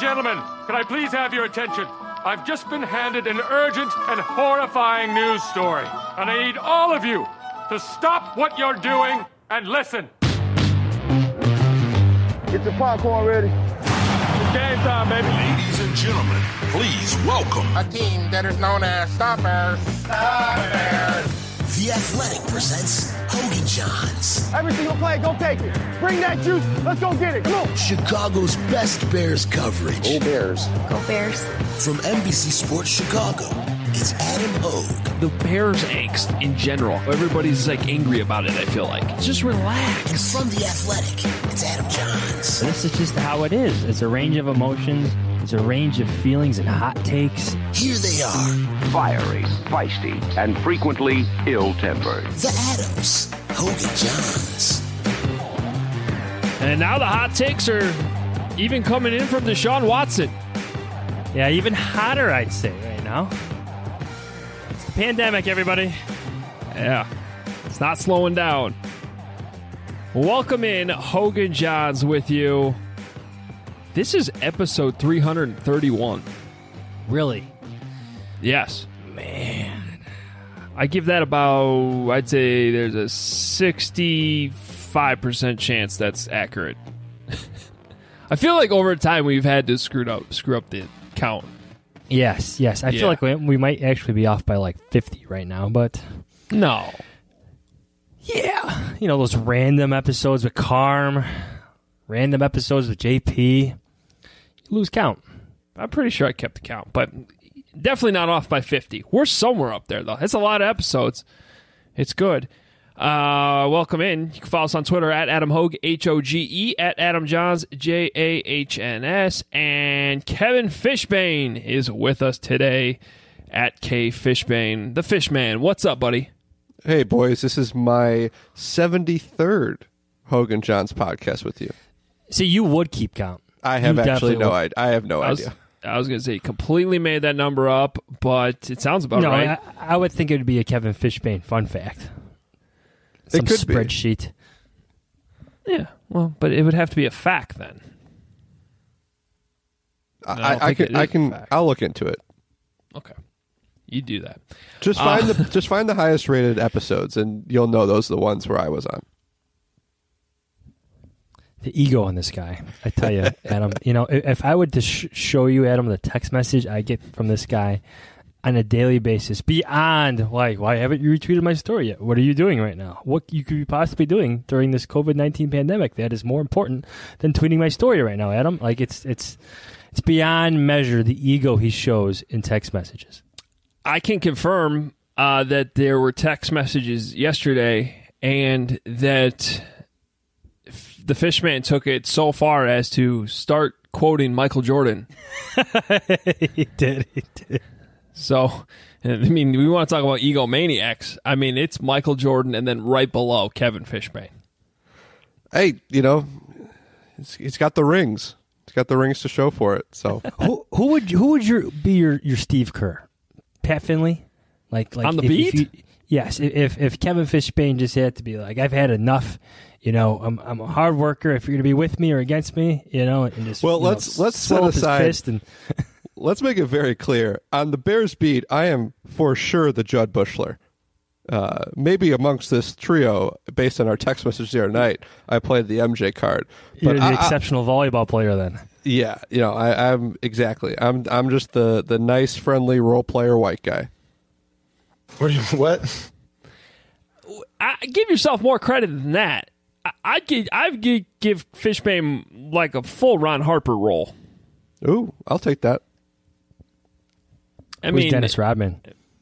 gentlemen, can I please have your attention? I've just been handed an urgent and horrifying news story, and I need all of you to stop what you're doing and listen. Get your popcorn ready. It's game time, baby. Ladies and gentlemen, please welcome a team that is known as Stoppers. The Athletic presents Hogan Johns. Every single play, go take it. Bring that juice. Let's go get it. Come on. Chicago's best Bears coverage. Go Bears. Go Bears. From NBC Sports Chicago, it's Adam Hogue. The Bears angst in general. Everybody's like angry about it, I feel like. Just relax. And from The Athletic, it's Adam Johns. This is just how it is. It's a range of emotions. It's a range of feelings and hot takes. Here they are. Fiery, feisty, and frequently ill-tempered. The Adams. Hogan Johns. And now the hot takes are even coming in from Deshaun Watson. Yeah, even hotter, I'd say, right now. It's the pandemic, everybody. Yeah, it's not slowing down. Welcome in, Hogan Johns with you. This is episode 331. Really? Yes. Man. I give that about, I'd say there's a 65% chance that's accurate. I feel like over time we've had to screw up the count. Yes. I feel like we might actually be off by like 50 right now, but... No. Yeah. You know, those random episodes with Carm, random episodes with JP. You lose count. I'm pretty sure I kept the count, but definitely not off by 50. We're somewhere up there, though. It's a lot of episodes. It's good. Welcome in. You can follow us on Twitter at Adam Hogue, Hoge, at Adam Johns, Jahns, and Kevin Fishbane is with us today at K Fishbane. The Fishman. What's up, buddy? Hey, boys. This is my 73rd Hogan Johns podcast with you. See, you would keep count. I have actually no idea. I have no idea. I was going to say, completely made that number up, but it sounds about right. I would think it would be a Kevin Fishbane fun fact. Some it could spreadsheet. Be. Yeah, well, but it would have to be a fact then. I'll look into it. Okay, you do that. Just find the highest rated episodes, and you'll know those are the ones where I was on. The ego on this guy, I tell you, Adam. You know, if I would to show you, Adam, the text message I get from this guy on a daily basis, beyond like, why haven't you retweeted my story yet? What are you doing right now? What you could be possibly doing during this COVID-19 pandemic that is more important than tweeting my story right now, Adam? Like it's beyond measure the ego he shows in text messages. I can confirm that there were text messages yesterday, and that the Fishman took it so far as to start quoting Michael Jordan. He did. So, I mean, we want to talk about egomaniacs. I mean, it's Michael Jordan and then right below Kevin Fishbane. Hey, you know, he's got the rings. He's got the rings to show for it. So, who would be your Steve Kerr? Pat Finley? Like on the beat? Yes. If Kevin Fishbane just had to be like, I've had enough. You know, I'm a hard worker. If you're going to be with me or against me, you know, and just let's set aside. Let's make it very clear. On the Bears beat, I am for sure the Judd Bushler. Maybe amongst this trio, based on our text message the other night, I played the MJ card. But you're the exceptional volleyball player then. Yeah, you know, I'm exactly. I'm just the nice, friendly role player white guy. What? Give yourself more credit than that. I'd give Fishbane like a full Ron Harper role. Ooh, I'll take that. I mean, Dennis Rodman.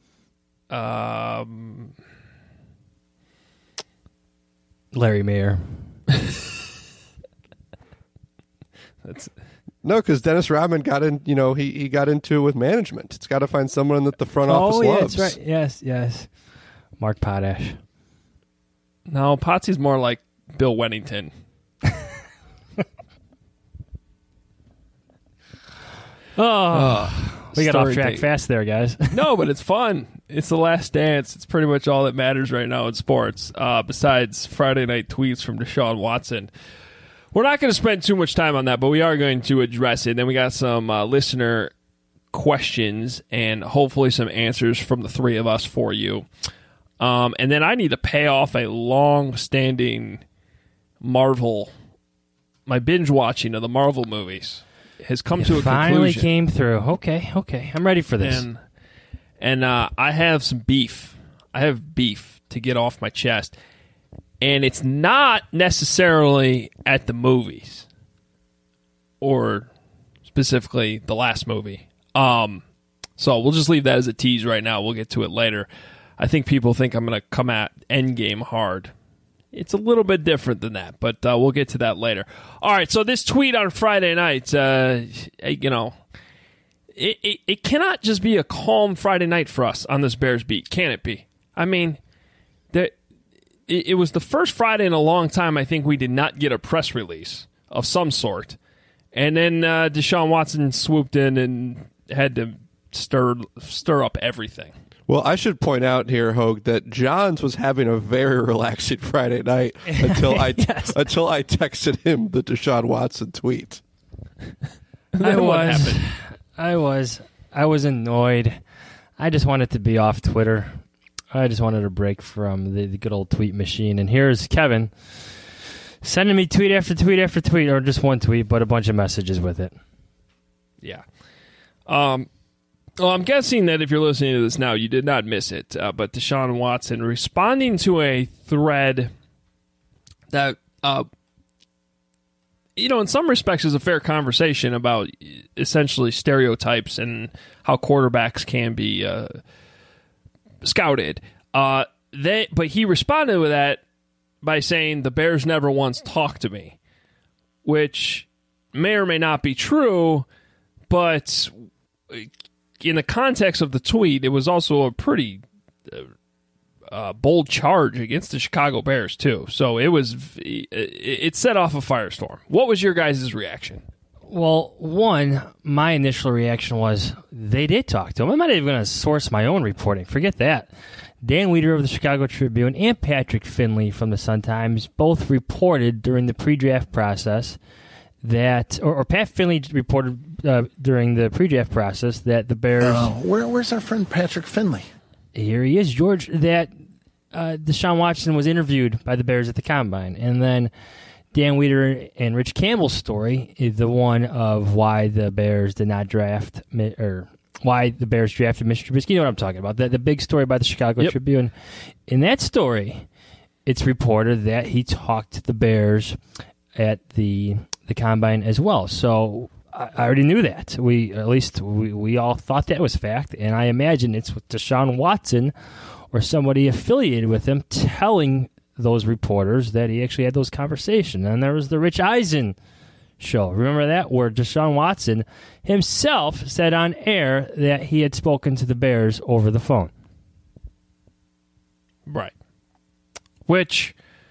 Larry Mayer. No, because Dennis Rodman got in. You know, he got into it with management. It's got to find someone that the front office loves. Oh, yeah, that's right. Yes. Mark Potash. No, Potsy's more like Bill Wennington. We got off track fast there, guys. No, but it's fun. It's the last dance. It's pretty much all that matters right now in sports, besides Friday night tweets from Deshaun Watson. We're not going to spend too much time on that, but we are going to address it. Then we got some listener questions and hopefully some answers from the three of us for you. And then I need to pay off a long-standing Marvel. My binge watching of the Marvel movies has come to a conclusion. Finally came through. Okay. I'm ready for this. And I have some beef. I have beef to get off my chest. And it's not necessarily at the movies. Or specifically the last movie. So we'll just leave that as a tease right now. We'll get to it later. I think people think I'm going to come at Endgame hard. It's a little bit different than that, but we'll get to that later. All right, so this tweet on Friday night, it cannot just be a calm Friday night for us on this Bears beat, can it be? I mean, it was the first Friday in a long time I think we did not get a press release of some sort. And then Deshaun Watson swooped in and had to stir up everything. Well, I should point out here, Hogue, that Johns was having a very relaxing Friday night until I texted him the Deshaun Watson tweet. I was annoyed. I just wanted to be off Twitter. I just wanted a break from the good old tweet machine. And here's Kevin sending me tweet after tweet after tweet, or just one tweet, but a bunch of messages with it. Yeah. Well, I'm guessing that if you're listening to this now, you did not miss it. But Deshaun Watson responding to a thread that, in some respects is a fair conversation about essentially stereotypes and how quarterbacks can be scouted. But he responded with that by saying, the Bears never once talked to me, which may or may not be true, but in the context of the tweet, it was also a pretty bold charge against the Chicago Bears, too. So it set off a firestorm. What was your guys' reaction? Well, one, my initial reaction was they did talk to him. I'm not even going to source my own reporting. Forget that. Dan Wiederer of the Chicago Tribune and Patrick Finley from the Sun-Times both reported during the pre-draft process that, or Pat Finley reported during the pre-draft process that the Bears... Where's our friend Patrick Finley? Here he is, George, that Deshaun Watson was interviewed by the Bears at the Combine. And then Dan Wiederer and Rich Campbell's story is the one of why the Bears did not draft, or why the Bears drafted Mr. Trubisky. You know what I'm talking about. The big story by the Chicago Tribune. In that story, it's reported that he talked to the Bears at the Combine as well. So I already knew that. We all thought that was fact, and I imagine it's with Deshaun Watson or somebody affiliated with him telling those reporters that he actually had those conversations. And there was the Rich Eisen show. Remember that? Where Deshaun Watson himself said on air that he had spoken to the Bears over the phone. Right. Which...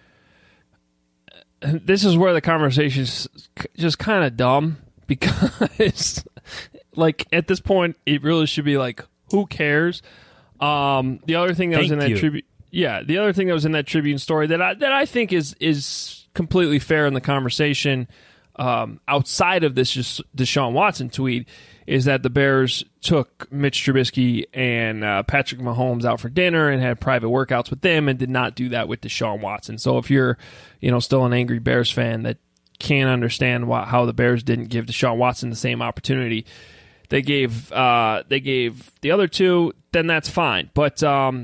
this is where the conversation's just kind of dumb, because, like, at this point, it really should be like, who cares? The other thing that was in that Tribune, the other thing that was in that Tribune story that I think is completely fair in the conversation, outside of this just Deshaun Watson tweet, is that the Bears took Mitch Trubisky and Patrick Mahomes out for dinner and had private workouts with them, and did not do that with Deshaun Watson. So if you're, still an angry Bears fan that can't understand how the Bears didn't give Deshaun Watson the same opportunity they gave the other two, then that's fine. But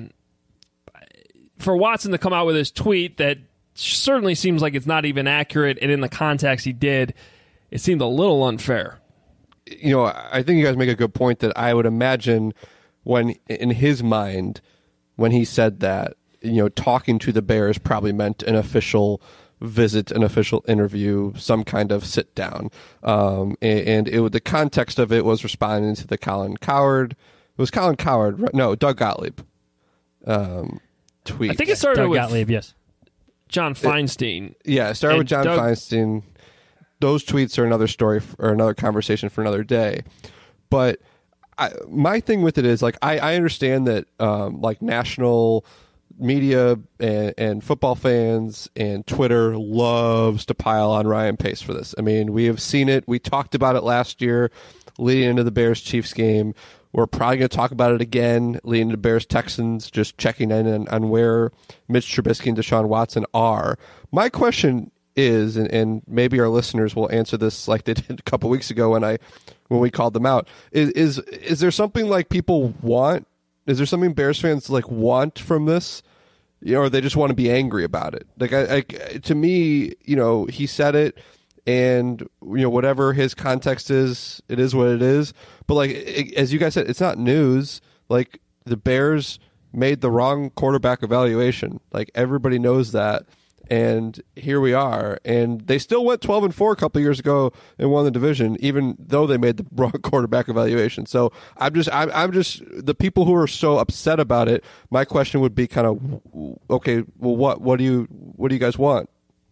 for Watson to come out with his tweet that certainly seems like it's not even accurate, and in the context he did, it seemed a little unfair. I think you guys make a good point that I would imagine when, in his mind, when he said that, talking to the Bears probably meant an official visit, an official interview, some kind of sit down. And the context of it was responding to the Colin Cowherd. It was Colin Cowherd, right? No, Doug Gottlieb tweet. I think it started with Gottlieb, yes. John Feinstein. It started with John Feinstein. Those tweets are another story or another conversation for another day. But my thing with it is, like, I understand that national media and football fans and Twitter loves to pile on Ryan Pace for this. I mean, we have seen it. We talked about it last year leading into the Bears-Chiefs game. We're probably going to talk about it again leading into Bears-Texans, just checking in on where Mitch Trubisky and Deshaun Watson are. My question is, and maybe our listeners will answer this like they did a couple weeks ago when we called them out, is there something like people want? Is there something Bears fans like want from this? Or they just want to be angry about it? Like, to me, he said it, and whatever his context is, it is what it is. But like, as you guys said, it's not news. Like, the Bears made the wrong quarterback evaluation. Like, everybody knows that. And here we are, and they still went 12-4 a couple of years ago and won the division, even though they made the wrong quarterback evaluation. So I'm just the people who are so upset about it. My question would be kind of, okay, well, what do you guys want?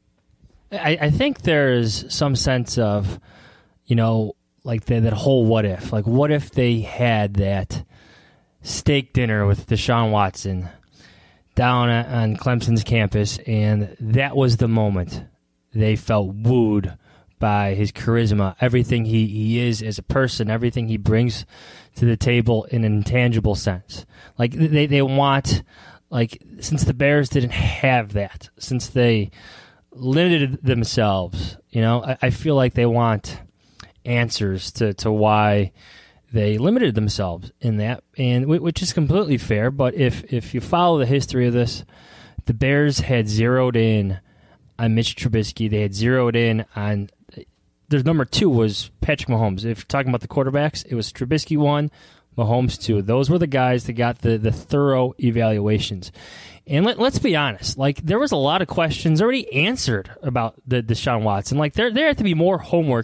I think there's some sense of, like that whole what if, like what if they had that steak dinner with Deshaun Watson down on Clemson's campus, and that was the moment they felt wooed by his charisma, everything he is as a person, everything he brings to the table in an intangible sense. Like they want, like, since the Bears didn't have that, since they limited themselves, I feel like they want answers to why they limited themselves in that, and which is completely fair. But if you follow the history of this, the Bears had zeroed in on Mitch Trubisky. They had zeroed in on their number 2 was Patrick Mahomes. If you're talking about the quarterbacks, it was Trubisky 1, Mahomes 2. Those were the guys that got the thorough evaluations. And let's be honest, like, there was a lot of questions already answered about the Deshaun Watson. Like, there had to be more homework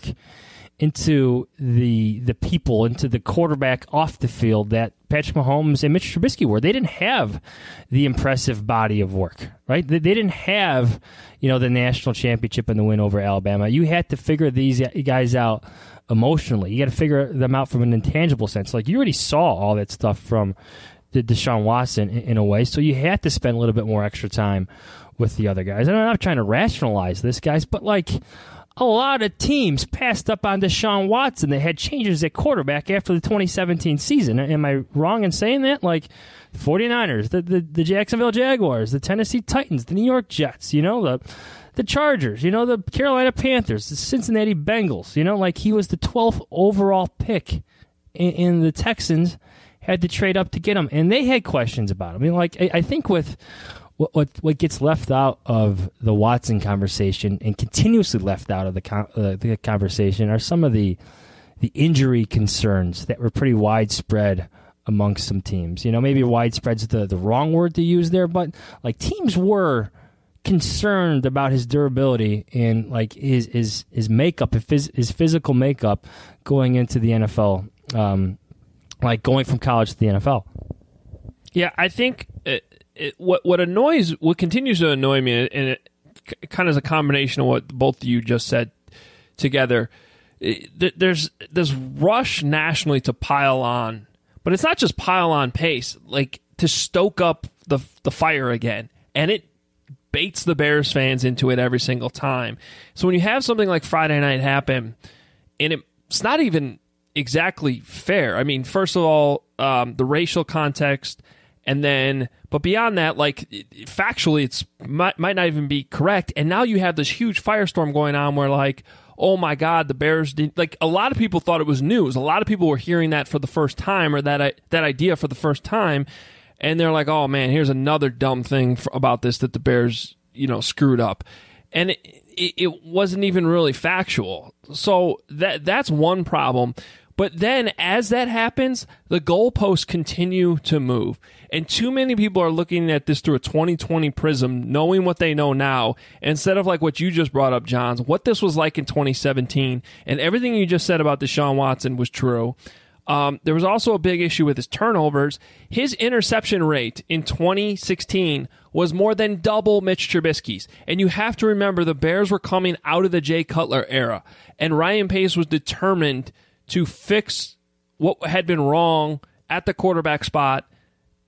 into the people, into the quarterback off the field that Patrick Mahomes and Mitch Trubisky were. They didn't have the impressive body of work, right? They didn't have, the national championship and the win over Alabama. You had to figure these guys out emotionally. You got to figure them out from an intangible sense. Like, you already saw all that stuff from the Deshaun Watson in a way, so you had to spend a little bit more extra time with the other guys. And I'm not trying to rationalize this, guys, but like, a lot of teams passed up on Deshaun Watson. They had changes at quarterback after the 2017 season. Am I wrong in saying that? Like, 49ers, the Jacksonville Jaguars, the Tennessee Titans, the New York Jets, the Chargers, the Carolina Panthers, the Cincinnati Bengals. Like, he was the 12th overall pick, in the Texans had to trade up to get him, and they had questions about him. I mean, like, I think with what gets left out of the Watson conversation and continuously left out of the conversation are some of the injury concerns that were pretty widespread amongst some teams. Maybe widespread's the wrong word to use there, but like, teams were concerned about his durability and like his makeup, his physical makeup going into the NFL, like going from college to the NFL. Yeah, I think what continues to annoy me, and it kind of is a combination of what both of you just said together. There's this rush nationally to pile on, but it's not just pile on Pace, like to stoke up the fire again, and it baits the Bears fans into it every single time. So when you have something like Friday night happen, and it's not even exactly fair. I mean, first of all, the racial context. And then, but beyond that, like, factually, it's might not even be correct. And now you have this huge firestorm going on where, like, oh my God, the Bears didn't, like, a lot of people thought it was news. A lot of people were hearing that for the first time, or that idea for the first time. And they're like, oh man, here's another dumb thing about this that the Bears, screwed up. And it wasn't even really factual. So that's one problem. But then as that happens, the goalposts continue to move. And too many people are looking at this through a 2020 prism, knowing what they know now, instead of like what you just brought up, Johns, what this was like in 2017. And everything you just said about Deshaun Watson was true. There was also a big issue with his turnovers. His interception rate in 2016 was more than double Mitch Trubisky's. And you have to remember, the Bears were coming out of the Jay Cutler era. And Ryan Pace was determined to fix what had been wrong at the quarterback spot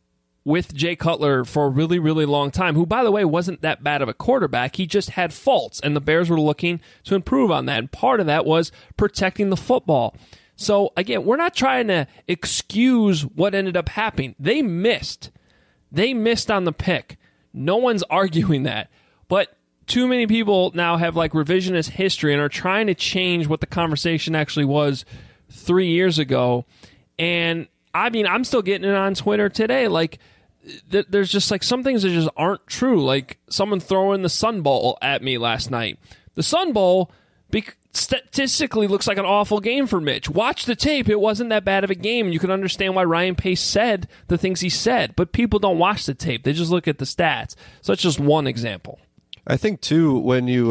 with Jay Cutler for a really, really long time, who, by the way, wasn't that bad of a quarterback. He just had faults, and the Bears were looking to improve on that. And part of that was protecting the football. So, again, we're not trying to excuse what ended up happening. They missed. They missed on the pick. No one's arguing that. But too many people now have like revisionist history and are trying to change what the conversation actually was 3 years ago. And, I mean, I'm still getting it on Twitter today. Like, there's just like some things that just aren't true. Like someone throwing the Sun Bowl at me last night. The Sun Bowl statistically looks like an awful game for Mitch. Watch the tape. It wasn't that bad of a game, and you can understand why Ryan Pace said the things he said. But people don't watch the tape. They just look at the stats. So that's just one example. I think, too, when you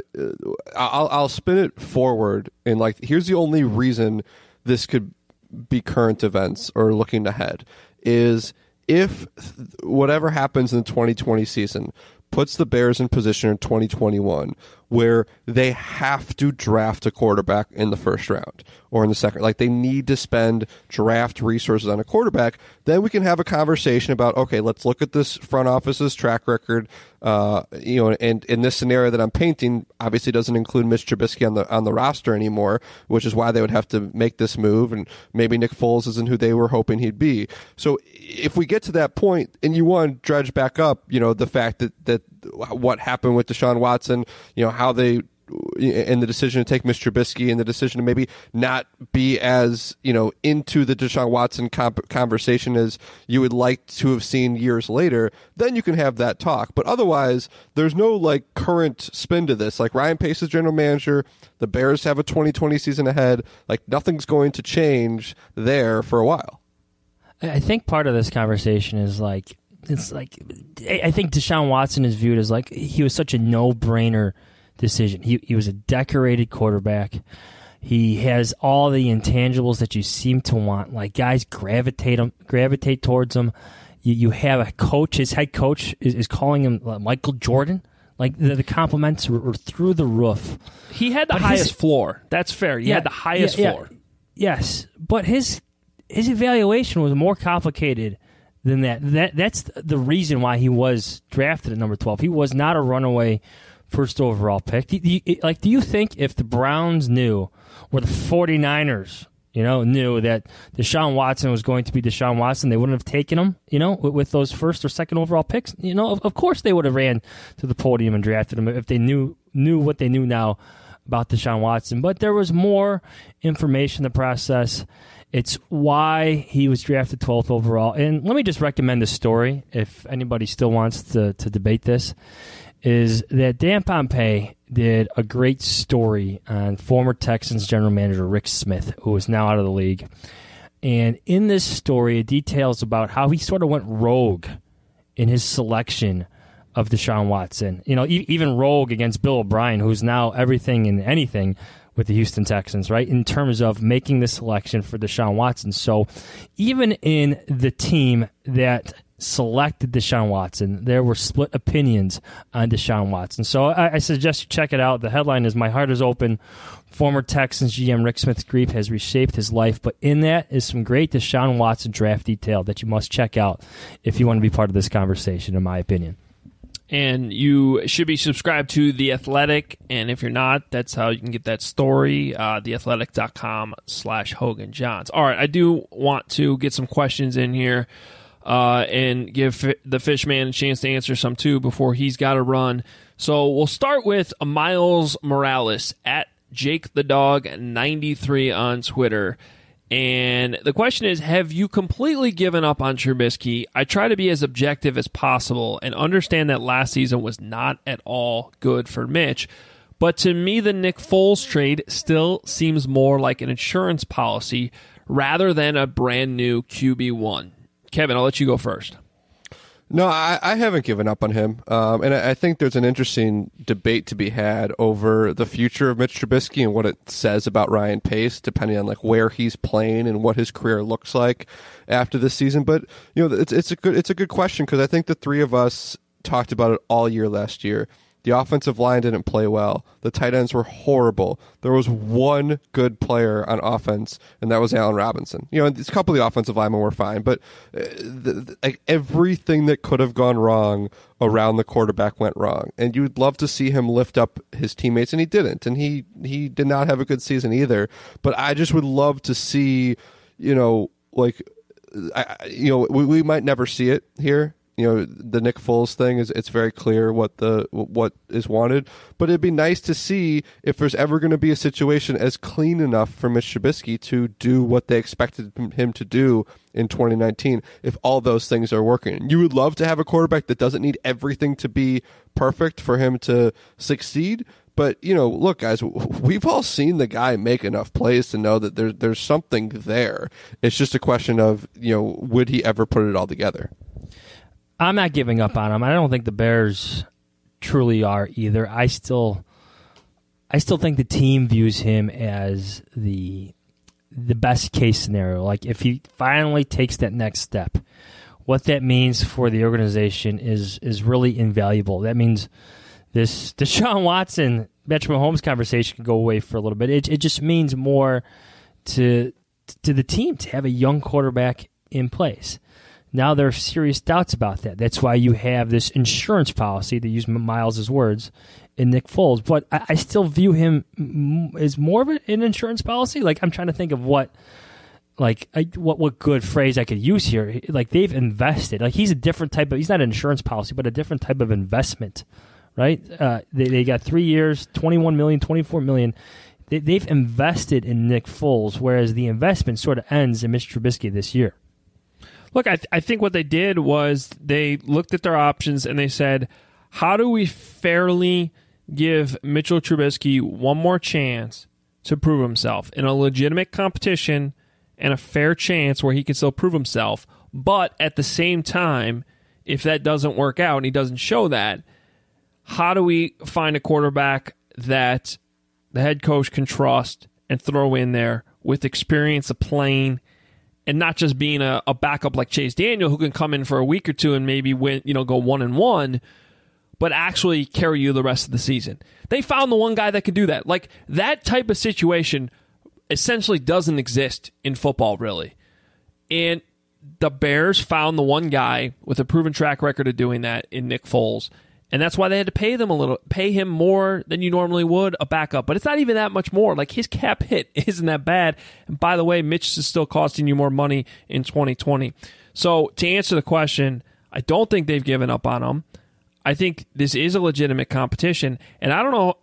I'll spin it forward, and like here's the only reason this could be current events or looking ahead is if whatever happens in the 2020 season puts the Bears in position in 2021 where they have to draft a quarterback in the first round or in the second, like they need to spend draft resources on a quarterback, then we can have a conversation about, okay, let's look at this front office's track record, and in this scenario that I'm painting, obviously doesn't include Mitch Trubisky on the roster anymore, which is why they would have to make this move, and maybe Nick Foles isn't who they were hoping he'd be. So if we get to that point and you want to dredge back up, the fact that what happened with Deshaun Watson, how they and the decision to take Mitch Trubisky and the decision to maybe not be as into the Deshaun Watson conversation as you would like to have seen years later, then you can have that talk. But otherwise, there's no like current spin to this. Like Ryan Pace is general manager, the Bears have a 2020 season ahead. Like nothing's going to change there for a while. I think part of this conversation is like I think Deshaun Watson is viewed as like he was such a no-brainer decision. He was a decorated quarterback. He has all the intangibles that you seem to want. Like guys gravitate towards him. You have a coach. His head coach is calling him Michael Jordan. Like the compliments were through the roof. He had the highest floor. That's fair. He had the highest floor. Yes, but his evaluation was more complicated than that. That's the reason why he was drafted at number 12. He was not a runaway first overall pick. Do you think if the Browns knew, or the 49ers, knew that Deshaun Watson was going to be Deshaun Watson, they wouldn't have taken him, with those first or second overall picks? Of course they would have ran to the podium and drafted him if they knew what they knew now about Deshaun Watson. But there was more information in the process. It's why he was drafted 12th overall. And let me just recommend a story, if anybody still wants to debate this, is that Dan Pompei did a great story on former Texans general manager Rick Smith, who is now out of the league. And in this story, it details about how he sort of went rogue in his selection of Deshaun Watson. Even rogue against Bill O'Brien, who's now everything and anything with the Houston Texans, right, in terms of making the selection for Deshaun Watson. So even in the team that selected Deshaun Watson, there were split opinions on Deshaun Watson. So I suggest you check it out. The headline is "My Heart is Open. Former Texans GM Rick Smith's grief has reshaped his life." But in that is some great Deshaun Watson draft detail that you must check out if you want to be part of this conversation, in my opinion. And you should be subscribed to The Athletic. And if you're not, that's how you can get that story, theathletic.com/Hogan Johns. All right, I do want to get some questions in here and give the Fishman a chance to answer some too before he's got to run. So we'll start with Miles Morales at Jake the Dog 93 on Twitter. And the question is, have you completely given up on Trubisky? I try to be as objective as possible and understand that last season was not at all good for Mitch. But to me, the Nick Foles trade still seems more like an insurance policy rather than a brand new QB1. Kevin, I'll let you go first. No, I haven't given up on him. And I think there's an interesting debate to be had over the future of Mitch Trubisky and what it says about Ryan Pace, depending on like where he's playing and what his career looks like after this season. But it's a good question, because I think the three of us talked about it all year last year. The offensive line didn't play well. The tight ends were horrible. There was one good player on offense, and that was Allen Robinson. A couple of the offensive linemen were fine, but everything that could have gone wrong around the quarterback went wrong. And you'd love to see him lift up his teammates, and he didn't. And he did not have a good season either. But I just would love to see, we might never see it here. The Nick Foles thing it's very clear what is wanted, but it'd be nice to see if there's ever going to be a situation as clean enough for Mitch Trubisky to do what they expected him to do in 2019. If all those things are working, you would love to have a quarterback that doesn't need everything to be perfect for him to succeed. But, look, guys, we've all seen the guy make enough plays to know that there's something there. It's just a question of, would he ever put it all together? I'm not giving up on him. I don't think the Bears truly are either. I still think the team views him as the best case scenario. Like, if he finally takes that next step, what that means for the organization is really invaluable. That means this Deshaun Watson, Patrick Mahomes conversation can go away for a little bit. It just means more to the team to have a young quarterback in place. Now there are serious doubts about that. That's why you have this insurance policy, to use Miles' words, in Nick Foles. But I still view him as more of an insurance policy. Like, I'm trying to think of what good phrase I could use here. Like, they've invested. Like, he's a different type of, he's not an insurance policy, but a different type of investment, right? They got 3 years, $21 million, $24 million. They've invested in Nick Foles, whereas the investment sort of ends in Mitch Trubisky this year. Look, I think what they did was they looked at their options and they said, how do we fairly give Mitchell Trubisky one more chance to prove himself in a legitimate competition and a fair chance where he can still prove himself, but at the same time, if that doesn't work out and he doesn't show that, how do we find a quarterback that the head coach can trust and throw in there with experience of playing and not just being a backup like Chase Daniel, who can come in for a week or two and maybe win, go 1-1, but actually carry you the rest of the season. They found the one guy that could do that. Like, that type of situation essentially doesn't exist in football, really. And the Bears found the one guy with a proven track record of doing that in Nick Foles. And that's why they had to pay him more than you normally would a backup. But it's not even that much more. Like, his cap hit isn't that bad. And by the way, Mitch is still costing you more money in 2020. So to answer the question, I don't think they've given up on him. I think this is a legitimate competition. And I don't know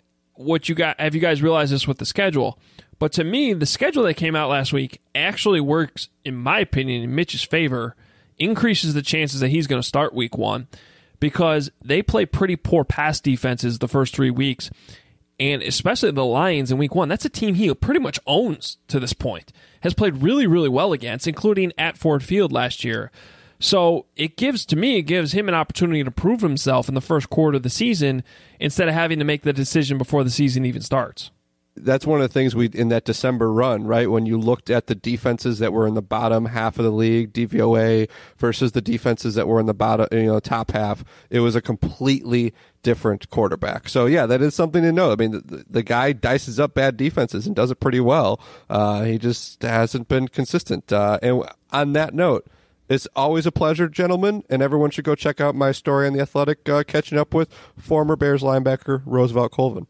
have you guys realized this with the schedule? But to me, the schedule that came out last week actually works, in my opinion, in Mitch's favor, increases the chances that he's going to start week 1. Because they play pretty poor pass defenses the first 3 weeks, and especially the Lions in week 1. That's a team he pretty much owns to this point. Has played really, really well against, including at Ford Field last year. So it gives him an opportunity to prove himself in the first quarter of the season instead of having to make the decision before the season even starts. That's one of the things in that December run, right? When you looked at the defenses that were in the bottom half of the league, DVOA, versus the defenses that were in the bottom, top half, it was a completely different quarterback. So yeah, that is something to know. I mean, the guy dices up bad defenses and does it pretty well. He just hasn't been consistent. And on that note, it's always a pleasure, gentlemen, and everyone should go check out my story on The Athletic, catching up with former Bears linebacker Roosevelt Colvin.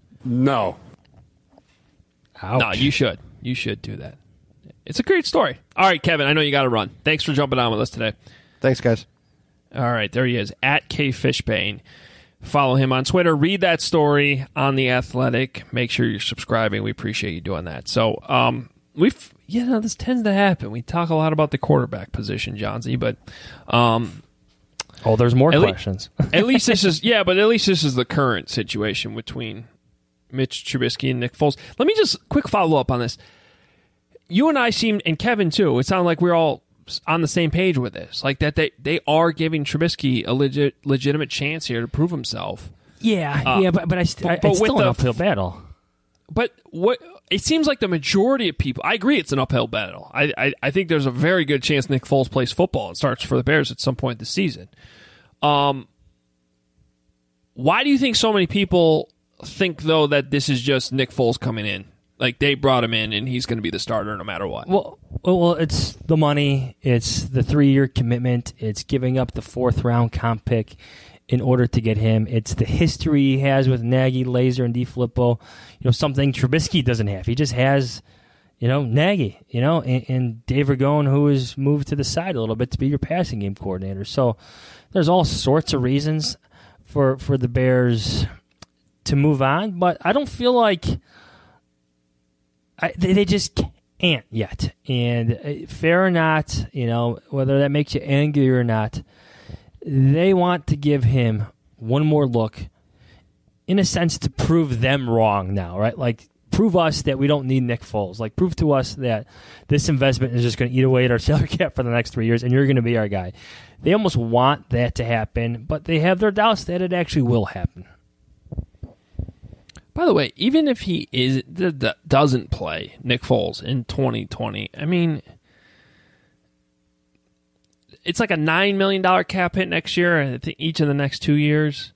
No. Ouch. No, you should. You should do that. It's a great story. All right, Kevin, I know you got to run. Thanks for jumping on with us today. Thanks, guys. All right, there he is, at K Fishbane. Follow him on Twitter. Read that story on The Athletic. Make sure you're subscribing. We appreciate you doing that. So, this tends to happen. We talk a lot about the quarterback position, Johnsy, but there's more questions. At least this is the current situation between Mitch Trubisky and Nick Foles. Let me just quick follow up on this. You and I seem, and Kevin too, it sounded like we're all on the same page with this. Like that they are giving Trubisky a legitimate chance here to prove himself. But it's still an uphill battle. But what it seems like the majority of people, I agree it's an uphill battle. I think there's a very good chance Nick Foles plays football and starts for the Bears at some point this season. Why do you think so many people think, though, that this is just Nick Foles coming in? Like, they brought him in, and he's going to be the starter no matter what. Well, it's the money. It's the 3-year commitment. It's giving up the 4th-round comp pick in order to get him. It's the history he has with Nagy, Laser, and DeFilippo. Something Trubisky doesn't have. He just has, Nagy, and Dave Ragone, who has moved to the side a little bit to be your passing game coordinator. So there's all sorts of reasons for the Bears to move on, but I don't feel like they just can't yet. And fair or not, whether that makes you angry or not, they want to give him one more look, in a sense, to prove them wrong now, right? Like, prove us that we don't need Nick Foles. Like, prove to us that this investment is just going to eat away at our salary cap for the next 3 years, and you're going to be our guy. They almost want that to happen, but they have their doubts that it actually will happen. By the way, even if he doesn't play Nick Foles in 2020, I mean, it's like a $9 million cap hit next year, I think each of the next 2 years.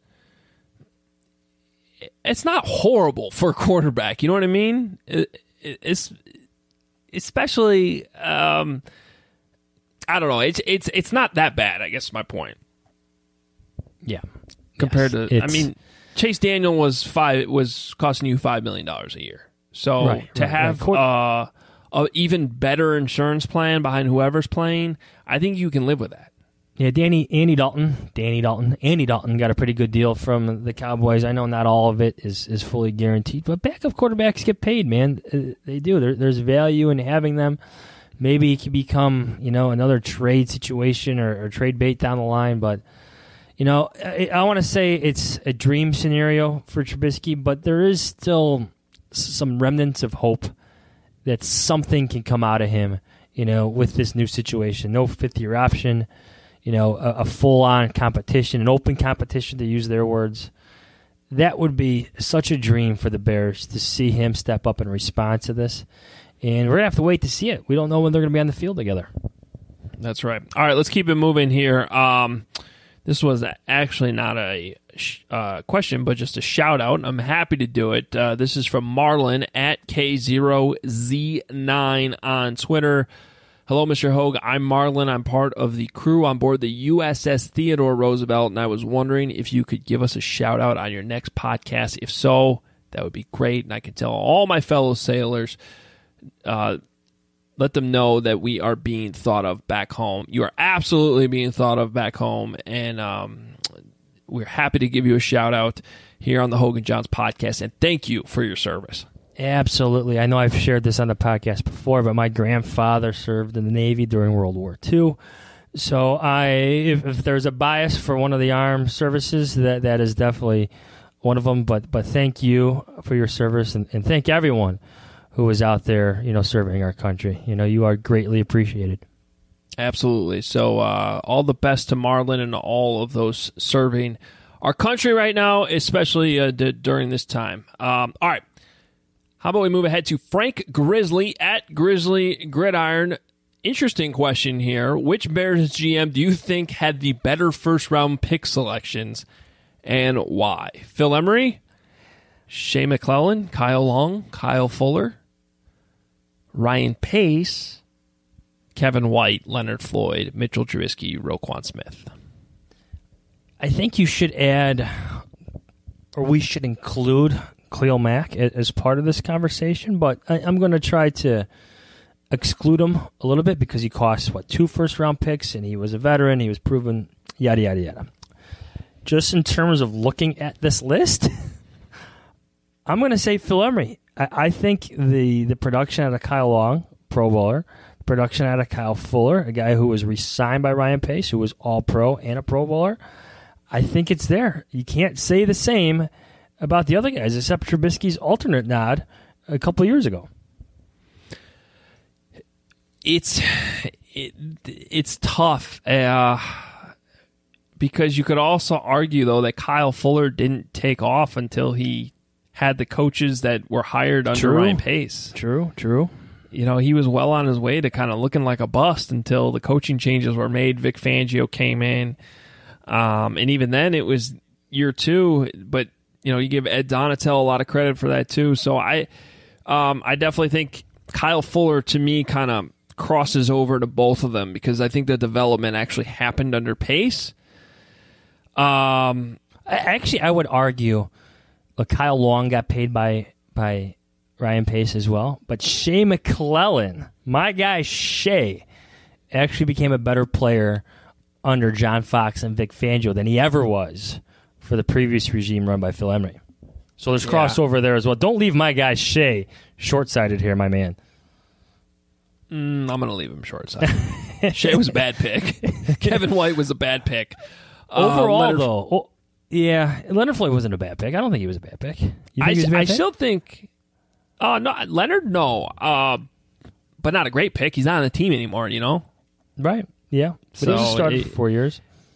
It's not horrible for a quarterback. You know what I mean? It's especially, I don't know. It's not that bad, I guess is my point. Yeah. Compared to, I mean, Chase Daniel was costing you $5 million a year. So to have a even better insurance plan behind whoever's playing, I think you can live with that. Yeah, Andy Dalton got a pretty good deal from the Cowboys. I know not all of it is fully guaranteed, but backup quarterbacks get paid, man. They do. There's value in having them. Maybe it could become, another trade situation or trade bait down the line, but I want to say it's a dream scenario for Trubisky, but there is still some remnants of hope that something can come out of him, with this new situation. No 5th-year option, a full-on competition, an open competition, to use their words. That would be such a dream for the Bears to see him step up and respond to this. And we're going to have to wait to see it. We don't know when they're going to be on the field together. That's right. All right, let's keep it moving here. This was actually not a question, but just a shout-out. I'm happy to do it. This is from Marlon at K0Z9 on Twitter. Hello, Mr. Hogue. I'm Marlon. I'm part of the crew on board the USS Theodore Roosevelt, and I was wondering if you could give us a shout-out on your next podcast. If so, that would be great, and I can tell all my fellow sailors, let them know that we are being thought of back home. You are absolutely being thought of back home, and we're happy to give you a shout-out here on the Hogue & Johns podcast, and thank you for your service. Absolutely. I know I've shared this on the podcast before, but my grandfather served in the Navy during World War II. So if there's a bias for one of the armed services, that is definitely one of them. But thank you for your service, and thank everyone who is out there, serving our country. You are greatly appreciated. Absolutely. So all the best to Marlon and all of those serving our country right now, especially during this time. All right. How about we move ahead to Frank Grizzly at Grizzly Gridiron. Interesting question here. Which Bears GM do you think had the better first-round pick selections, and why? Phil Emery, Shea McClellan, Kyle Long, Kyle Fuller, Ryan Pace, Kevin White, Leonard Floyd, Mitchell Trubisky, Roquan Smith. I think you should add, or we should include, Khalil Mack as part of this conversation, but I'm going to try to exclude him a little bit because he cost, 2 first-round picks, and he was a veteran, he was proven, yada, yada, yada. Just in terms of looking at this list, I'm going to say Phil Emery. I think the production out of Kyle Long, Pro Bowler, production out of Kyle Fuller, a guy who was re-signed by Ryan Pace, who was All-Pro and a Pro Bowler, I think it's there. You can't say the same about the other guys, except Trubisky's alternate nod a couple of years ago. It's tough because you could also argue, though, that Kyle Fuller didn't take off until he had the coaches that were hired under Ryan Pace. True. He was well on his way to kind of looking like a bust until the coaching changes were made. Vic Fangio came in. And even then, it was year 2, but you give Ed Donatel a lot of credit for that too. So I definitely think Kyle Fuller, to me, kind of crosses over to both of them because I think the development actually happened under Pace. Actually, I would argue, look, Kyle Long got paid by Ryan Pace as well, but Shea McClellan, my guy Shea, actually became a better player under John Fox and Vic Fangio than he ever was for the previous regime run by Phil Emery. So there's crossover there as well. Don't leave my guy Shea short-sighted here, my man. I'm going to leave him short-sighted. Shea was a bad pick. Kevin White was a bad pick. Overall, though, Leonard Floyd wasn't a bad pick. I don't think he was a bad pick. You think he was a bad pick? Still think... no, Leonard, no. But not a great pick. He's not on the team anymore, Right, yeah. But he was started for 4 years.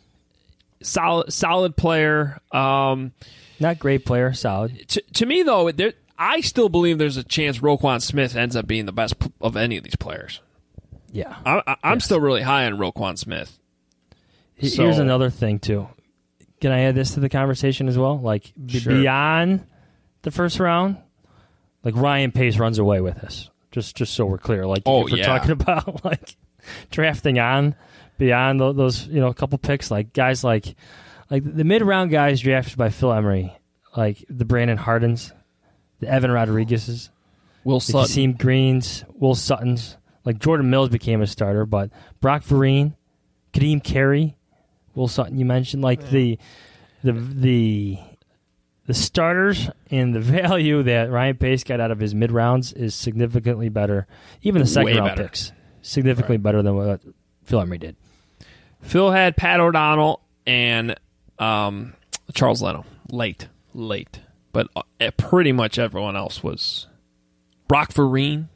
Solid player. Not great player, solid. To me, though, I still believe there's a chance Roquan Smith ends up being the best of any of these players. Yeah. I'm still really high on Roquan Smith. Here's another thing, too. Can I add this to the conversation as well? Like, beyond the first round, like Ryan Pace runs away with this. Just so we're clear. Like, if we're talking about, like, drafting on beyond those, a couple picks, like guys like the mid-round guys drafted by Phil Emery, like the Brandon Hardens, the Evan Rodriguez's, Will the Sutton. Kasim Greens, Will Suttons, like Jordan Mills became a starter, but Brock Vereen, Kadeem Carey, Will Sutton, you mentioned, like the starters and the value that Ryan Pace got out of his mid-rounds is significantly better. Even the second-round picks, significantly better than what Phil Emery did. Phil had Pat O'Donnell and Charles Leno late, but pretty much everyone else was Brock Vereen.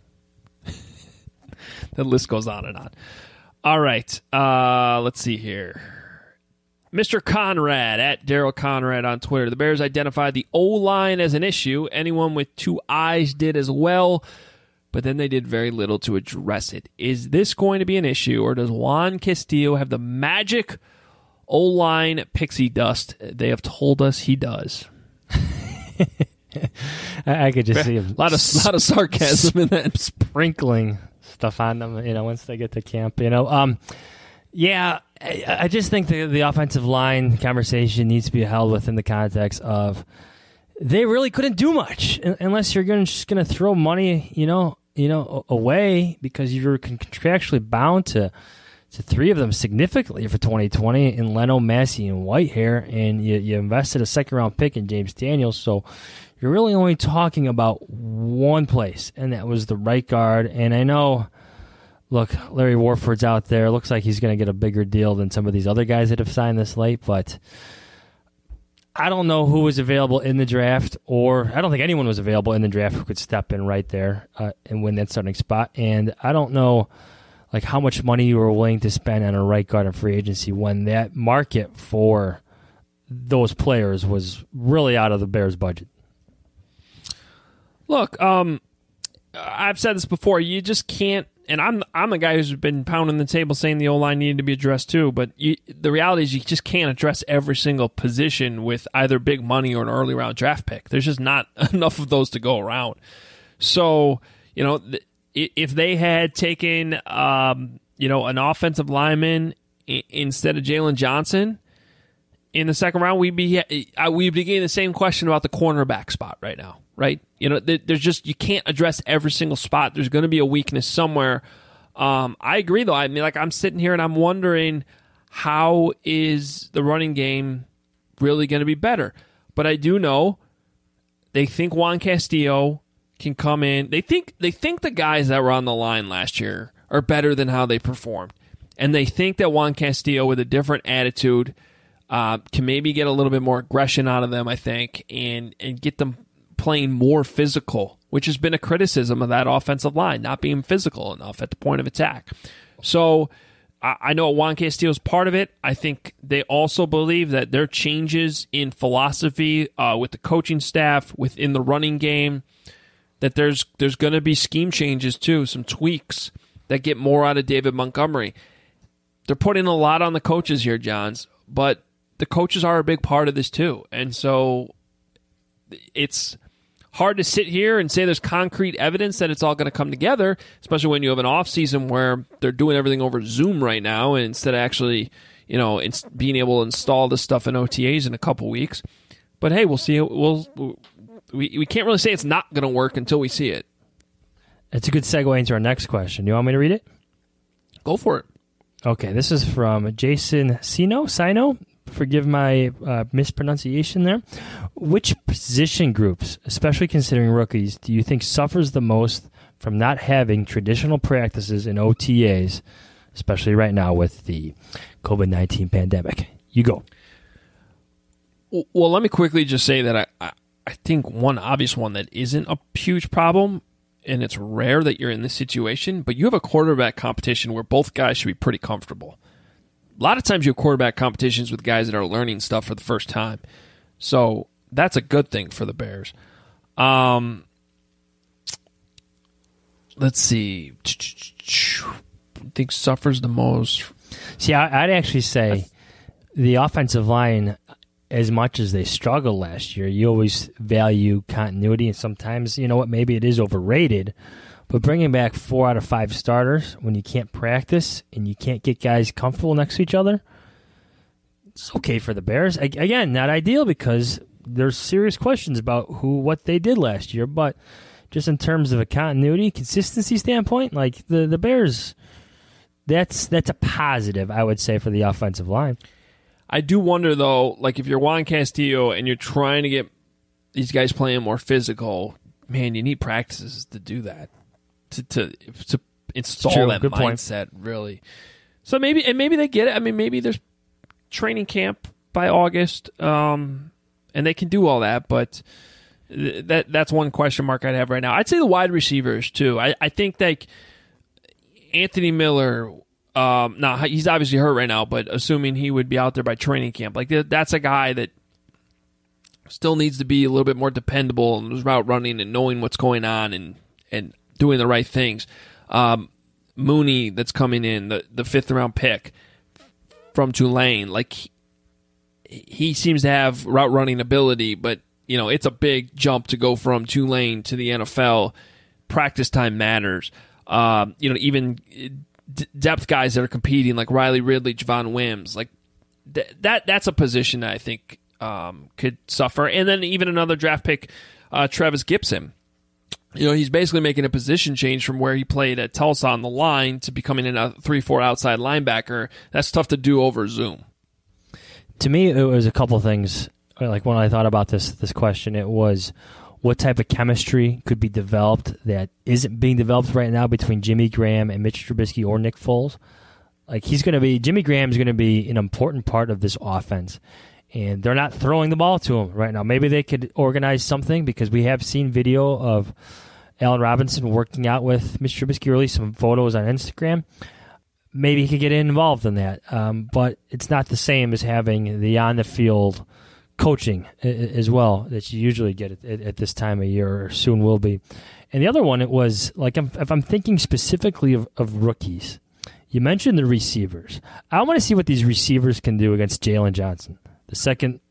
The list goes on and on. All right, let's see here. Mr. Conrad, at Daryl Conrad on Twitter. The Bears identified the O-line as an issue. Anyone with two eyes did as well, but then they did very little to address it. Is this going to be an issue, or does Juan Castillo have the magic O-line pixie dust they have told us he does? I could just see him. A lot of sarcasm in that. Sprinkling stuff on them, once they get to camp. Yeah, I just think the offensive line conversation needs to be held within the context of they really couldn't do much unless you're just going to throw money, away because you're contractually bound to three of them significantly for 2020 in Leno, Massey, and Whitehair, and you invested a second-round pick in James Daniels, so you're really only talking about one place, and that was the right guard. And I know, look, Larry Warford's out there. Looks like he's going to get a bigger deal than some of these other guys that have signed this late, but I don't know who was available in the draft, or I don't think anyone was available in the draft who could step in right there and win that starting spot. And I don't know how much money you were willing to spend on a right guard in free agency when that market for those players was really out of the Bears' budget. Look, I've said this before. You just can't. And I'm a guy who's been pounding the table saying the O-line needed to be addressed too, but the reality is you just can't address every single position with either big money or an early round draft pick. There's just not enough of those to go around. So, if they had taken, an offensive lineman instead of Jalen Johnson in the second round, we'd be getting the same question about the cornerback spot right now. Right? There's just, you can't address every single spot. There's going to be a weakness somewhere. I agree, though. I mean, I'm sitting here and I'm wondering, how is the running game really going to be better? But I do know they think Juan Castillo can come in. They think the guys that were on the line last year are better than how they performed. And they think that Juan Castillo, with a different attitude, can maybe get a little bit more aggression out of them, I think, and get them playing more physical, which has been a criticism of that offensive line, not being physical enough at the point of attack. So I know Juan Castillo is part of it. I think they also believe that their changes in philosophy with the coaching staff, within the running game, that there's going to be scheme changes too, some tweaks that get more out of David Montgomery. They're putting a lot on the coaches here, Johns, but the coaches are a big part of this too. And so it's hard to sit here and say there's concrete evidence that it's all going to come together, especially when you have an off season where they're doing everything over Zoom right now, and instead of actually, it's being able to install this stuff in OTAs in a couple weeks. But hey, we'll see. We can't really say it's not going to work until we see it. It's a good segue into our next question. You want me to read it? Go for it. Okay, this is from Jason Sino. Forgive my mispronunciation there. Which position groups, especially considering rookies, do you think suffers the most from not having traditional practices in OTAs, especially right now with the COVID-19 pandemic? You go. Well, let me quickly just say that I think one obvious one that isn't a huge problem, and it's rare that you're in this situation, but you have a quarterback competition where both guys should be pretty comfortable. A lot of times you have quarterback competitions with guys that are learning stuff for the first time. So that's a good thing for the Bears. Let's see. I think suffers the most. See, I'd actually say the offensive line, as much as they struggled last year, you always value continuity, and sometimes, maybe it is overrated. But bringing back 4 out of 5 starters when you can't practice and you can't get guys comfortable next to each other, it's okay for the Bears. Again, not ideal because there's serious questions about what they did last year. But just in terms of a continuity, consistency standpoint, like the Bears, that's a positive, I would say, for the offensive line. I do wonder, though, like if you're Juan Castillo and you're trying to get these guys playing more physical, man, you need practices to do that. To install that Good mindset, point. Really. So maybe they get it. I mean, maybe there's training camp by August, and they can do all that. But that's one question mark I'd have right now. I'd say the wide receivers too. I think like Anthony Miller. Now he's obviously hurt right now, but assuming he would be out there by training camp, like that's a guy that still needs to be a little bit more dependable in his route running and knowing what's going on and doing the right things. Mooney, that's coming in, the 5th round pick from Tulane, like he seems to have route running ability, but it's a big jump to go from Tulane to the NFL. Practice time matters. Even depth guys that are competing, like Riley Ridley, Javon Wims, like that's a position that I think could suffer. And then even another draft pick, Travis Gibson. He's basically making a position change from where he played at Tulsa on the line to becoming a 3-4 outside linebacker. That's tough to do over Zoom. To me, it was a couple things. Like when I thought about this question, it was what type of chemistry could be developed that isn't being developed right now between Jimmy Graham and Mitch Trubisky or Nick Foles. Like Jimmy Graham is going to be an important part of this offense. And they're not throwing the ball to him right now. Maybe they could organize something because we have seen video of Allen Robinson working out with Mitch Trubisky, released some photos on Instagram. Maybe he could get involved in that. But it's not the same as having the on-the-field coaching as well that you usually get at this time of year or soon will be. And the other one, it was, like, if I'm thinking specifically of rookies, you mentioned the receivers. I want to see what these receivers can do against Jalen Johnson. The second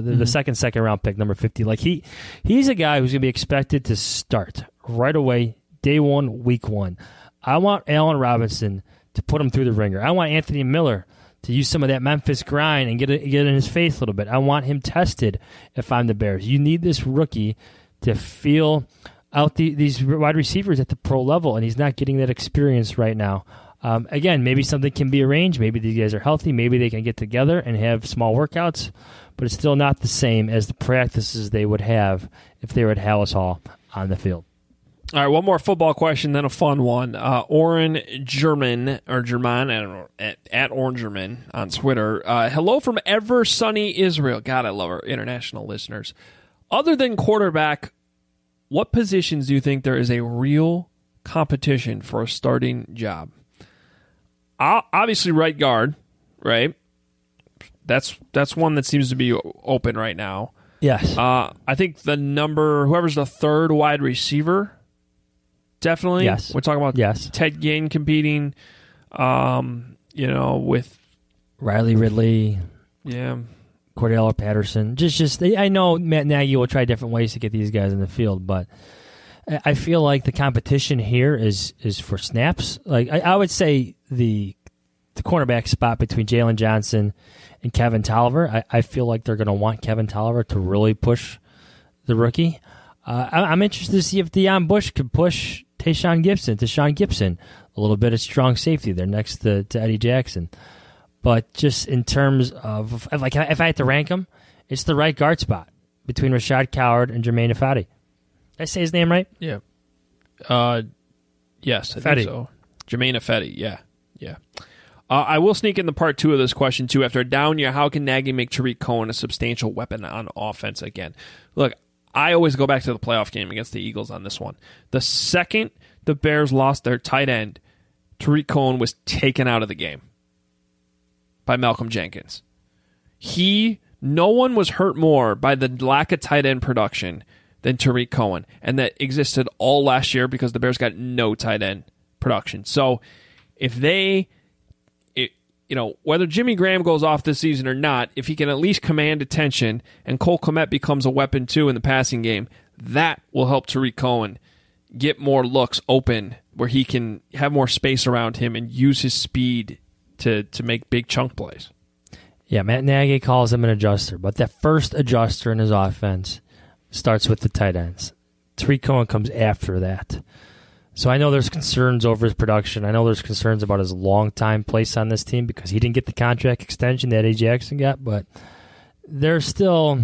round pick, number 50. Like he's a guy who's going to be expected to start right away, day one, week one. I want Allen Robinson to put him through the ringer. I want Anthony Miller to use some of that Memphis grind and get in his face a little bit. I want him tested if I'm the Bears. You need this rookie to feel out these wide receivers at the pro level, and he's not getting that experience right now. Again, maybe something can be arranged. Maybe these guys are healthy. Maybe they can get together and have small workouts, but it's still not the same as the practices they would have if they were at Hallis Hall on the field. All right, one more football question, then a fun one. Oren German, or German, I don't know, at Oren German on Twitter. Hello from ever sunny Israel. God, I love our international listeners. Other than quarterback, what positions do you think there is a real competition for a starting job? Obviously, right guard, right? That's one that seems to be open right now. Yes. I think whoever's the third wide receiver, definitely. Yes. We're talking about Ted Ginn competing, with Riley Ridley. Yeah. Cordell Patterson. I know Matt Nagy will try different ways to get these guys in the field, but I feel like the competition here is for snaps. Like I would say the cornerback spot between Jalen Johnson and Kevin Tolliver, I feel like they're going to want Kevin Tolliver to really push the rookie. I'm interested to see if Deion Bush could push Tashawn Gibson, a little bit of strong safety there next to Eddie Jackson. But just in terms of, like, if I had to rank them, it's the right guard spot between Rashad Coward and Jermaine Ifedi. Did I say his name right? Yeah. Yes, I think so. Jermaine Ifedi, yeah. I will sneak in the part 2 of this question, too. After a down year, how can Nagy make Tariq Cohen a substantial weapon on offense again? Look, I always go back to the playoff game against the Eagles on this one. The second the Bears lost their tight end, Tariq Cohen was taken out of the game by Malcolm Jenkins. No one was hurt more by the lack of tight end production than Tariq Cohen, and that existed all last year because the Bears got no tight end production. So if whether Jimmy Graham goes off this season or not, if he can at least command attention and Cole Kmet becomes a weapon too in the passing game, that will help Tariq Cohen get more looks open where he can have more space around him and use his speed to make big chunk plays. Yeah, Matt Nagy calls him an adjuster, but that first adjuster in his offense starts with the tight ends. Tariq Cohen comes after that. So I know there's concerns over his production. I know there's concerns about his long-time place on this team because he didn't get the contract extension that Eddie Jackson got, but there's still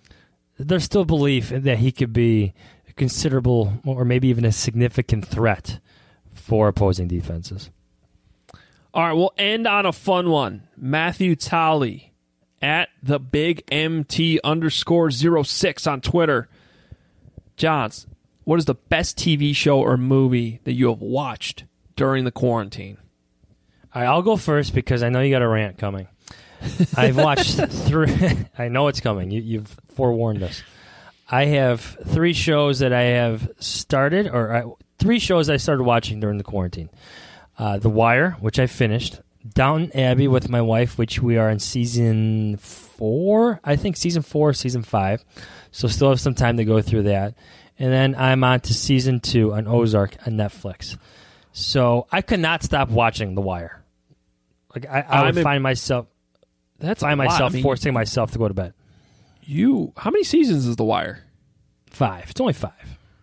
belief that he could be a considerable or maybe even a significant threat for opposing defenses. All right, we'll end on a fun one. Matthew Talley at the Big MT _06 on Twitter. Johns, what is the best TV show or movie that you have watched during the quarantine? All right, I'll go first because I know you got a rant coming. I've watched 3. I know it's coming. You've forewarned us. I have 3 shows that I have started, 3 shows I started watching during the quarantine. The Wire, which I finished. Downton Abbey with my wife, which we are in season 4. I think season 4, season 5. So still have some time to go through that. And then I'm on to season 2 on Ozark on Netflix. So I could not stop watching The Wire. Like I would find myself forcing myself to go to bed. How many seasons is The Wire? 5. It's only 5.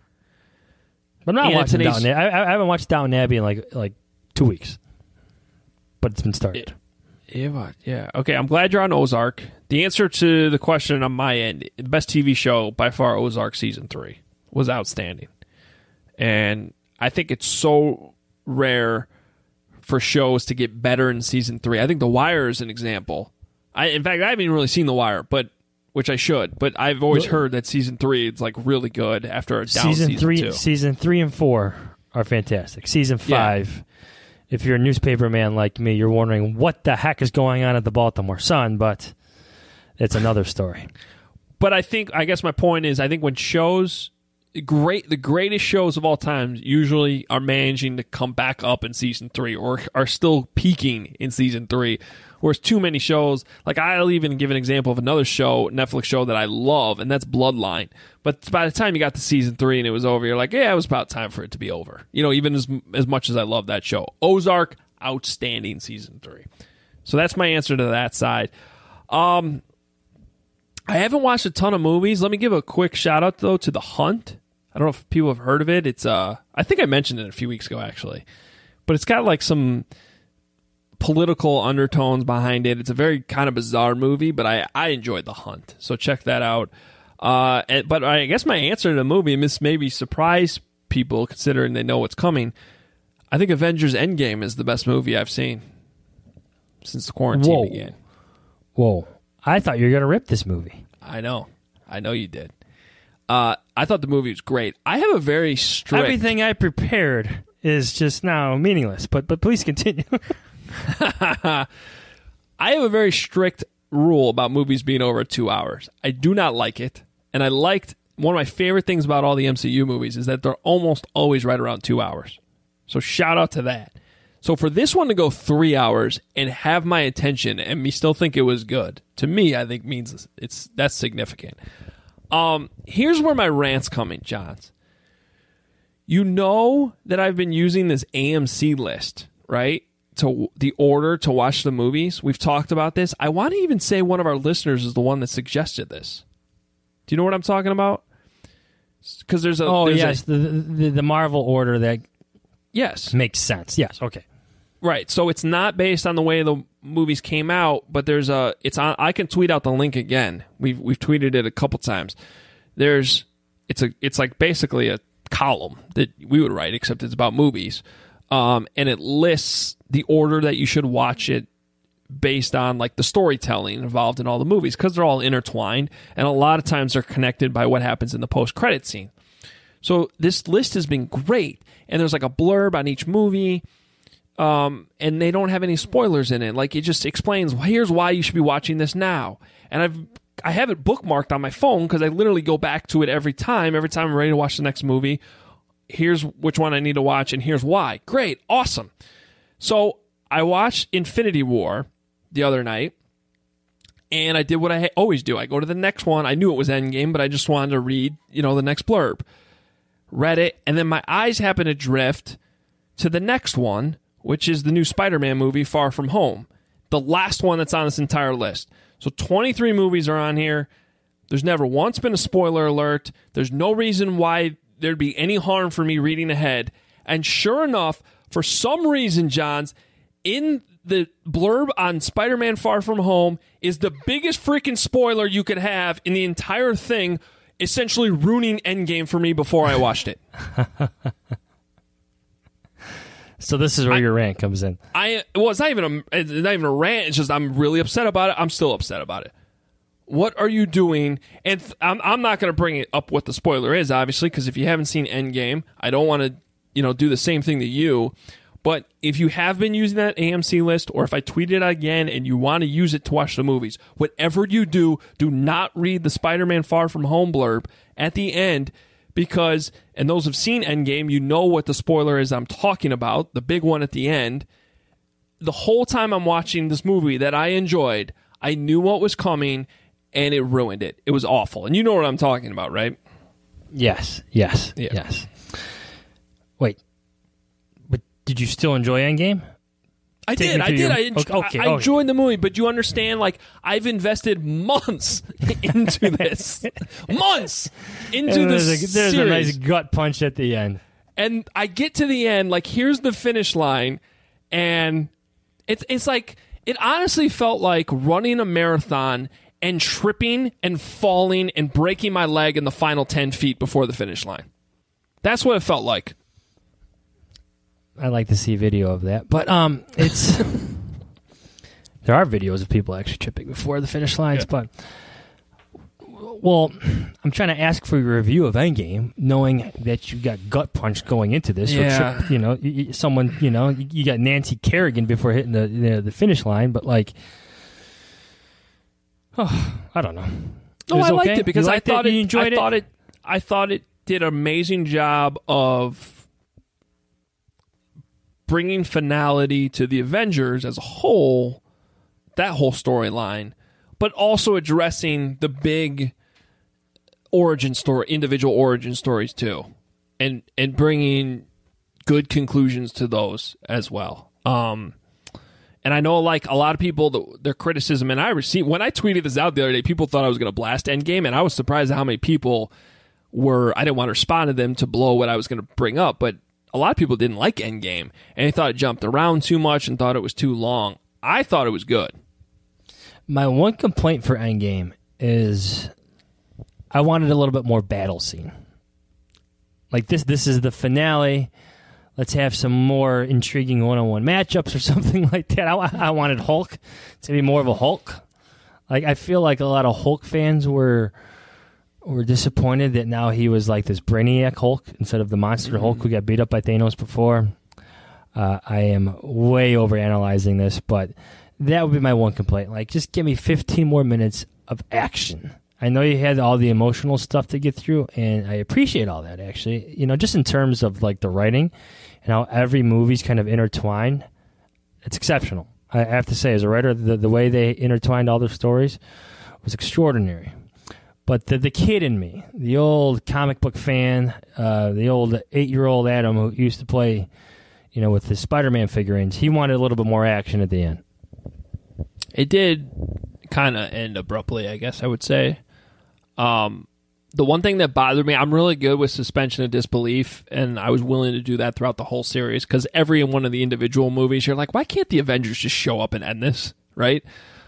But I'm not watching Downton Abbey. I haven't watched Downton Abbey in like 2 weeks. But it's been started. Yeah. Okay, I'm glad you're on Ozark. The answer to the question on my end, the best TV show by far, Ozark season 3, was outstanding. And I think it's so rare for shows to get better in season 3. I think The Wire is an example. In fact, I haven't even really seen The Wire, which I should. But I've always heard that season 3 is like really good after a down season 2. Season 3 and 4 are fantastic. Season 5, if you're a newspaper man like me, you're wondering what the heck is going on at the Baltimore Sun, but it's another story. But I guess my point is, I think when shows, the greatest shows of all time usually are managing to come back up in season 3 or are still peaking in season 3. Whereas too many shows, like I'll even give an example of another show, Netflix show that I love, and that's Bloodline. But by the time you got to season 3 and it was over, you're like, yeah, it was about time for it to be over. Even as much as I love that show. Ozark, outstanding season 3. So that's my answer to that side. I haven't watched a ton of movies. Let me give a quick shout out though to The Hunt. I don't know if people have heard of it. It's I think I mentioned it a few weeks ago actually. But it's got like some political undertones behind it. It's a very kind of bizarre movie, but I enjoyed The Hunt. So check that out. But I guess my answer to the movie, and this maybe surprise people considering they know what's coming, I think Avengers Endgame is the best movie I've seen since the quarantine began. Whoa. I thought you were going to rip this movie. I know you did. I thought the movie was great. I have a very strict... Everything I prepared is just now meaningless, but please continue. I have a very strict rule about movies being over 2 hours. I do not like it, and I liked... One of my favorite things about all the MCU movies is that they're almost always right around 2 hours. So shout out to that. So for this one to go 3 hours and have my attention and me still think it was good, to me, I think means that's significant. Here's where my rant's coming, Johns. You know that I've been using this AMC list, right? To the order to watch the movies. We've talked about this. I want to even say one of our listeners is the one that suggested this. Do you know what I'm talking about? Because there's the Marvel order that makes sense. Yes, okay. Right. So it's not based on the way the movies came out, but I can tweet out the link again. We've tweeted it a couple times. It's like basically a column that we would write, except it's about movies. And it lists the order that you should watch it based on like the storytelling involved in all the movies, because they're all intertwined, and a lot of times they're connected by what happens in the post-credit scene. So this list has been great, and there's like a blurb on each movie, and they don't have any spoilers in it. Like, it just explains, well, here's why you should be watching this now. And I have it bookmarked on my phone because I literally go back to it every time I'm ready to watch the next movie. Here's which one I need to watch, and here's why. Great, awesome. So I watched Infinity War the other night, and I did what I always do. I go to the next one. I knew it was Endgame, but I just wanted to read, the next blurb. Read it, and then my eyes happened to drift to the next one, which is the new Spider-Man movie, Far From Home. The last one that's on this entire list. So 23 movies are on here. There's never once been a spoiler alert. There's no reason why there'd be any harm for me reading ahead. And sure enough, for some reason, Johns, in the blurb on Spider-Man Far From Home is the biggest freaking spoiler you could have in the entire thing, essentially ruining Endgame for me before I watched it. So this is where your rant comes in. It's not even a rant. It's just I'm really upset about it. I'm still upset about it. What are you doing? And I'm not going to bring it up what the spoiler is, obviously, because if you haven't seen Endgame, I don't want to, do the same thing to you. But if you have been using that AMC list, or if I tweet it again and you want to use it to watch the movies, whatever you do not read the Spider-Man Far From Home blurb at the end, because, and those who've seen Endgame, you know what the spoiler is I'm talking about, the big one at the end. The whole time I'm watching this movie that I enjoyed, I knew what was coming, and it ruined it. It was awful. And you know what I'm talking about, right? Yes. Wait. But did you still enjoy Endgame? I did. I enjoyed the movie, but you understand, like, I've invested months into this. Months into this There's series. a nice gut punch at the end. And I get to the end, like, here's the finish line, and it's like, it honestly felt like running a marathon and tripping and falling and breaking my leg in the final 10 feet before the finish line. That's what it felt like. I'd like to see video of that. But it's there are videos of people actually tripping before the finish lines. Yeah. But, well, I'm trying to ask for your review of Endgame, knowing that you got gut punch going into this. Yeah. Or you got Nancy Kerrigan before hitting the finish line. But, like, I don't know. No, I liked it because I thought you enjoyed it. I thought it did an amazing job of bringing finality to the Avengers as a whole, that whole storyline, but also addressing the big origin story, individual origin stories too, and bringing good conclusions to those as well. And I know, like, a lot of people, their criticism, and I received, when I tweeted this out the other day, people thought I was going to blast Endgame, and I was surprised at how many people I didn't want to respond to them to blow what I was going to bring up, but a lot of people didn't like Endgame, and they thought it jumped around too much and thought it was too long. I thought it was good. My one complaint for Endgame is I wanted a little bit more battle scene. Like, this is the finale. Let's have some more intriguing one-on-one matchups or something like that. I wanted Hulk to be more of a Hulk. Like, I feel like a lot of Hulk fans were disappointed that now he was like this Brainiac Hulk instead of the monster Hulk who got beat up by Thanos before. I am way overanalyzing this, but that would be my one complaint. Like, just give me 15 more minutes of action. I know you had all the emotional stuff to get through, and I appreciate all that, actually. Just in terms of, like, the writing and how every movie's kind of intertwined. It's exceptional. I have to say, as a writer, the way they intertwined all their stories was extraordinary. But the kid in me, the old comic book fan, the old 8-year-old Adam who used to play, with the Spider-Man figurines, he wanted a little bit more action at the end. It did kind of end abruptly, I guess I would say. The one thing that bothered me, I'm really good with suspension of disbelief, and I was willing to do that throughout the whole series, because every one of the individual movies, you're like, why can't the Avengers just show up and end this, right?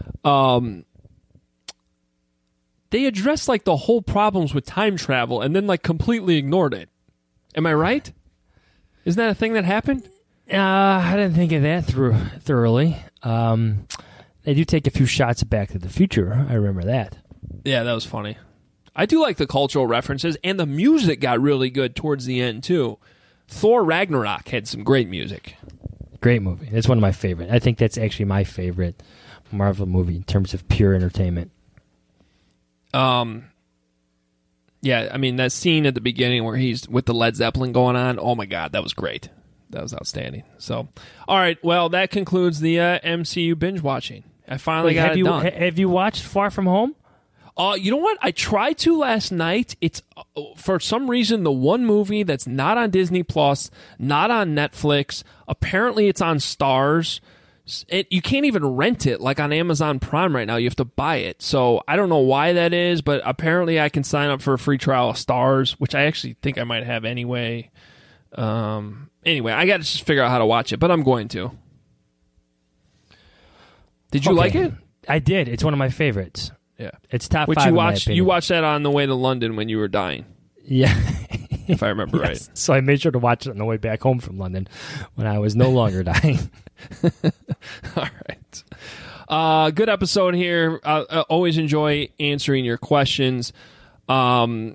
They addressed, like, the whole problems with time travel and then, like, completely ignored it. Am I right? Isn't that a thing that happened? I didn't think of that thoroughly. They do take a few shots at Back to the Future. I remember that. Yeah, that was funny. I do like the cultural references, and the music got really good towards the end, too. Thor Ragnarok had some great music. Great movie. That's one of my favorite. I think that's actually my favorite Marvel movie in terms of pure entertainment. Yeah, I mean, that scene at the beginning where he's with the Led Zeppelin going on, oh my God, that was great. That was outstanding. So, all right, well, that concludes the MCU binge watching. I finally got it done. Have you watched Far From Home? You know what? I tried to last night. It's, for some reason, the one movie that's not on Disney Plus, not on Netflix. Apparently, it's on Stars. You can't even rent it like on Amazon Prime right now. You have to buy it. So I don't know why that is, but apparently I can sign up for a free trial of Stars, which I actually think I might have anyway. Anyway, I got to just figure out how to watch it, but I'm going to. Did you like it? I did. It's one of my favorites. Yeah, it's top which 5 you in watched. my You watched that on the way to London when you were dying. Yeah, if I remember yes. right. So I made sure to watch it on the way back home from London when I was no longer dying. All right, good episode here. I always enjoy answering your questions, and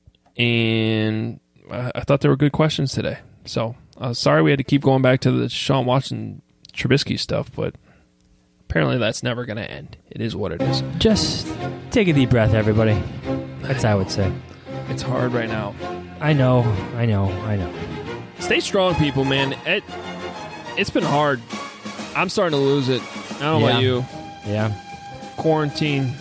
I thought they were good questions today. So sorry we had to keep going back to the Sean Watson Trubisky stuff, but apparently that's never going to end. It is what it is. Just take a deep breath, everybody. That's what I would say. It's hard right now. I know. Stay strong, people, man. It's been hard. I'm starting to lose it. I don't know about you. Yeah. Quarantine.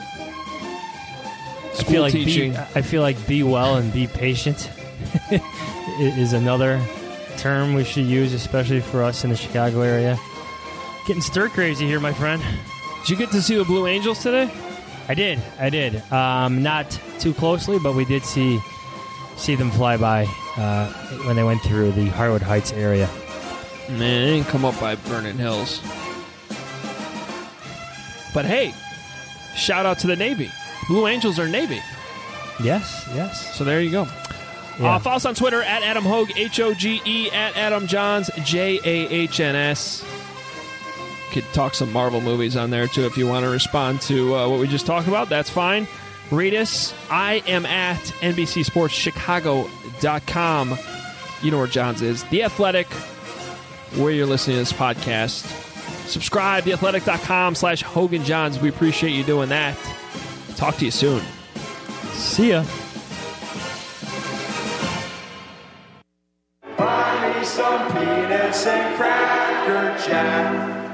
I feel like be well and be patient is another term we should use, especially for us in the Chicago area. Getting stir crazy here, my friend. Did you get to see the Blue Angels today? I did. Not too closely, but we did see them fly by when they went through the Harwood Heights area. Man, they didn't come up by Vernon Hills. But hey, shout out to the Navy. Blue Angels are Navy. Yes. So there you go. Yeah. Follow us on Twitter at Adam Hogue, Hoge, at Adam Johns, Jahns. Could talk some Marvel movies on there, too, if you want to respond to what we just talked about. That's fine. Read us. I am at NBCSportsChicago.com. You know where Johns is. The Athletic, where you're listening to this podcast. Subscribe, theathletic.com/Hogan Johns. We appreciate you doing that. Talk to you soon. See ya. Buy me some peanuts and Cracker Jack.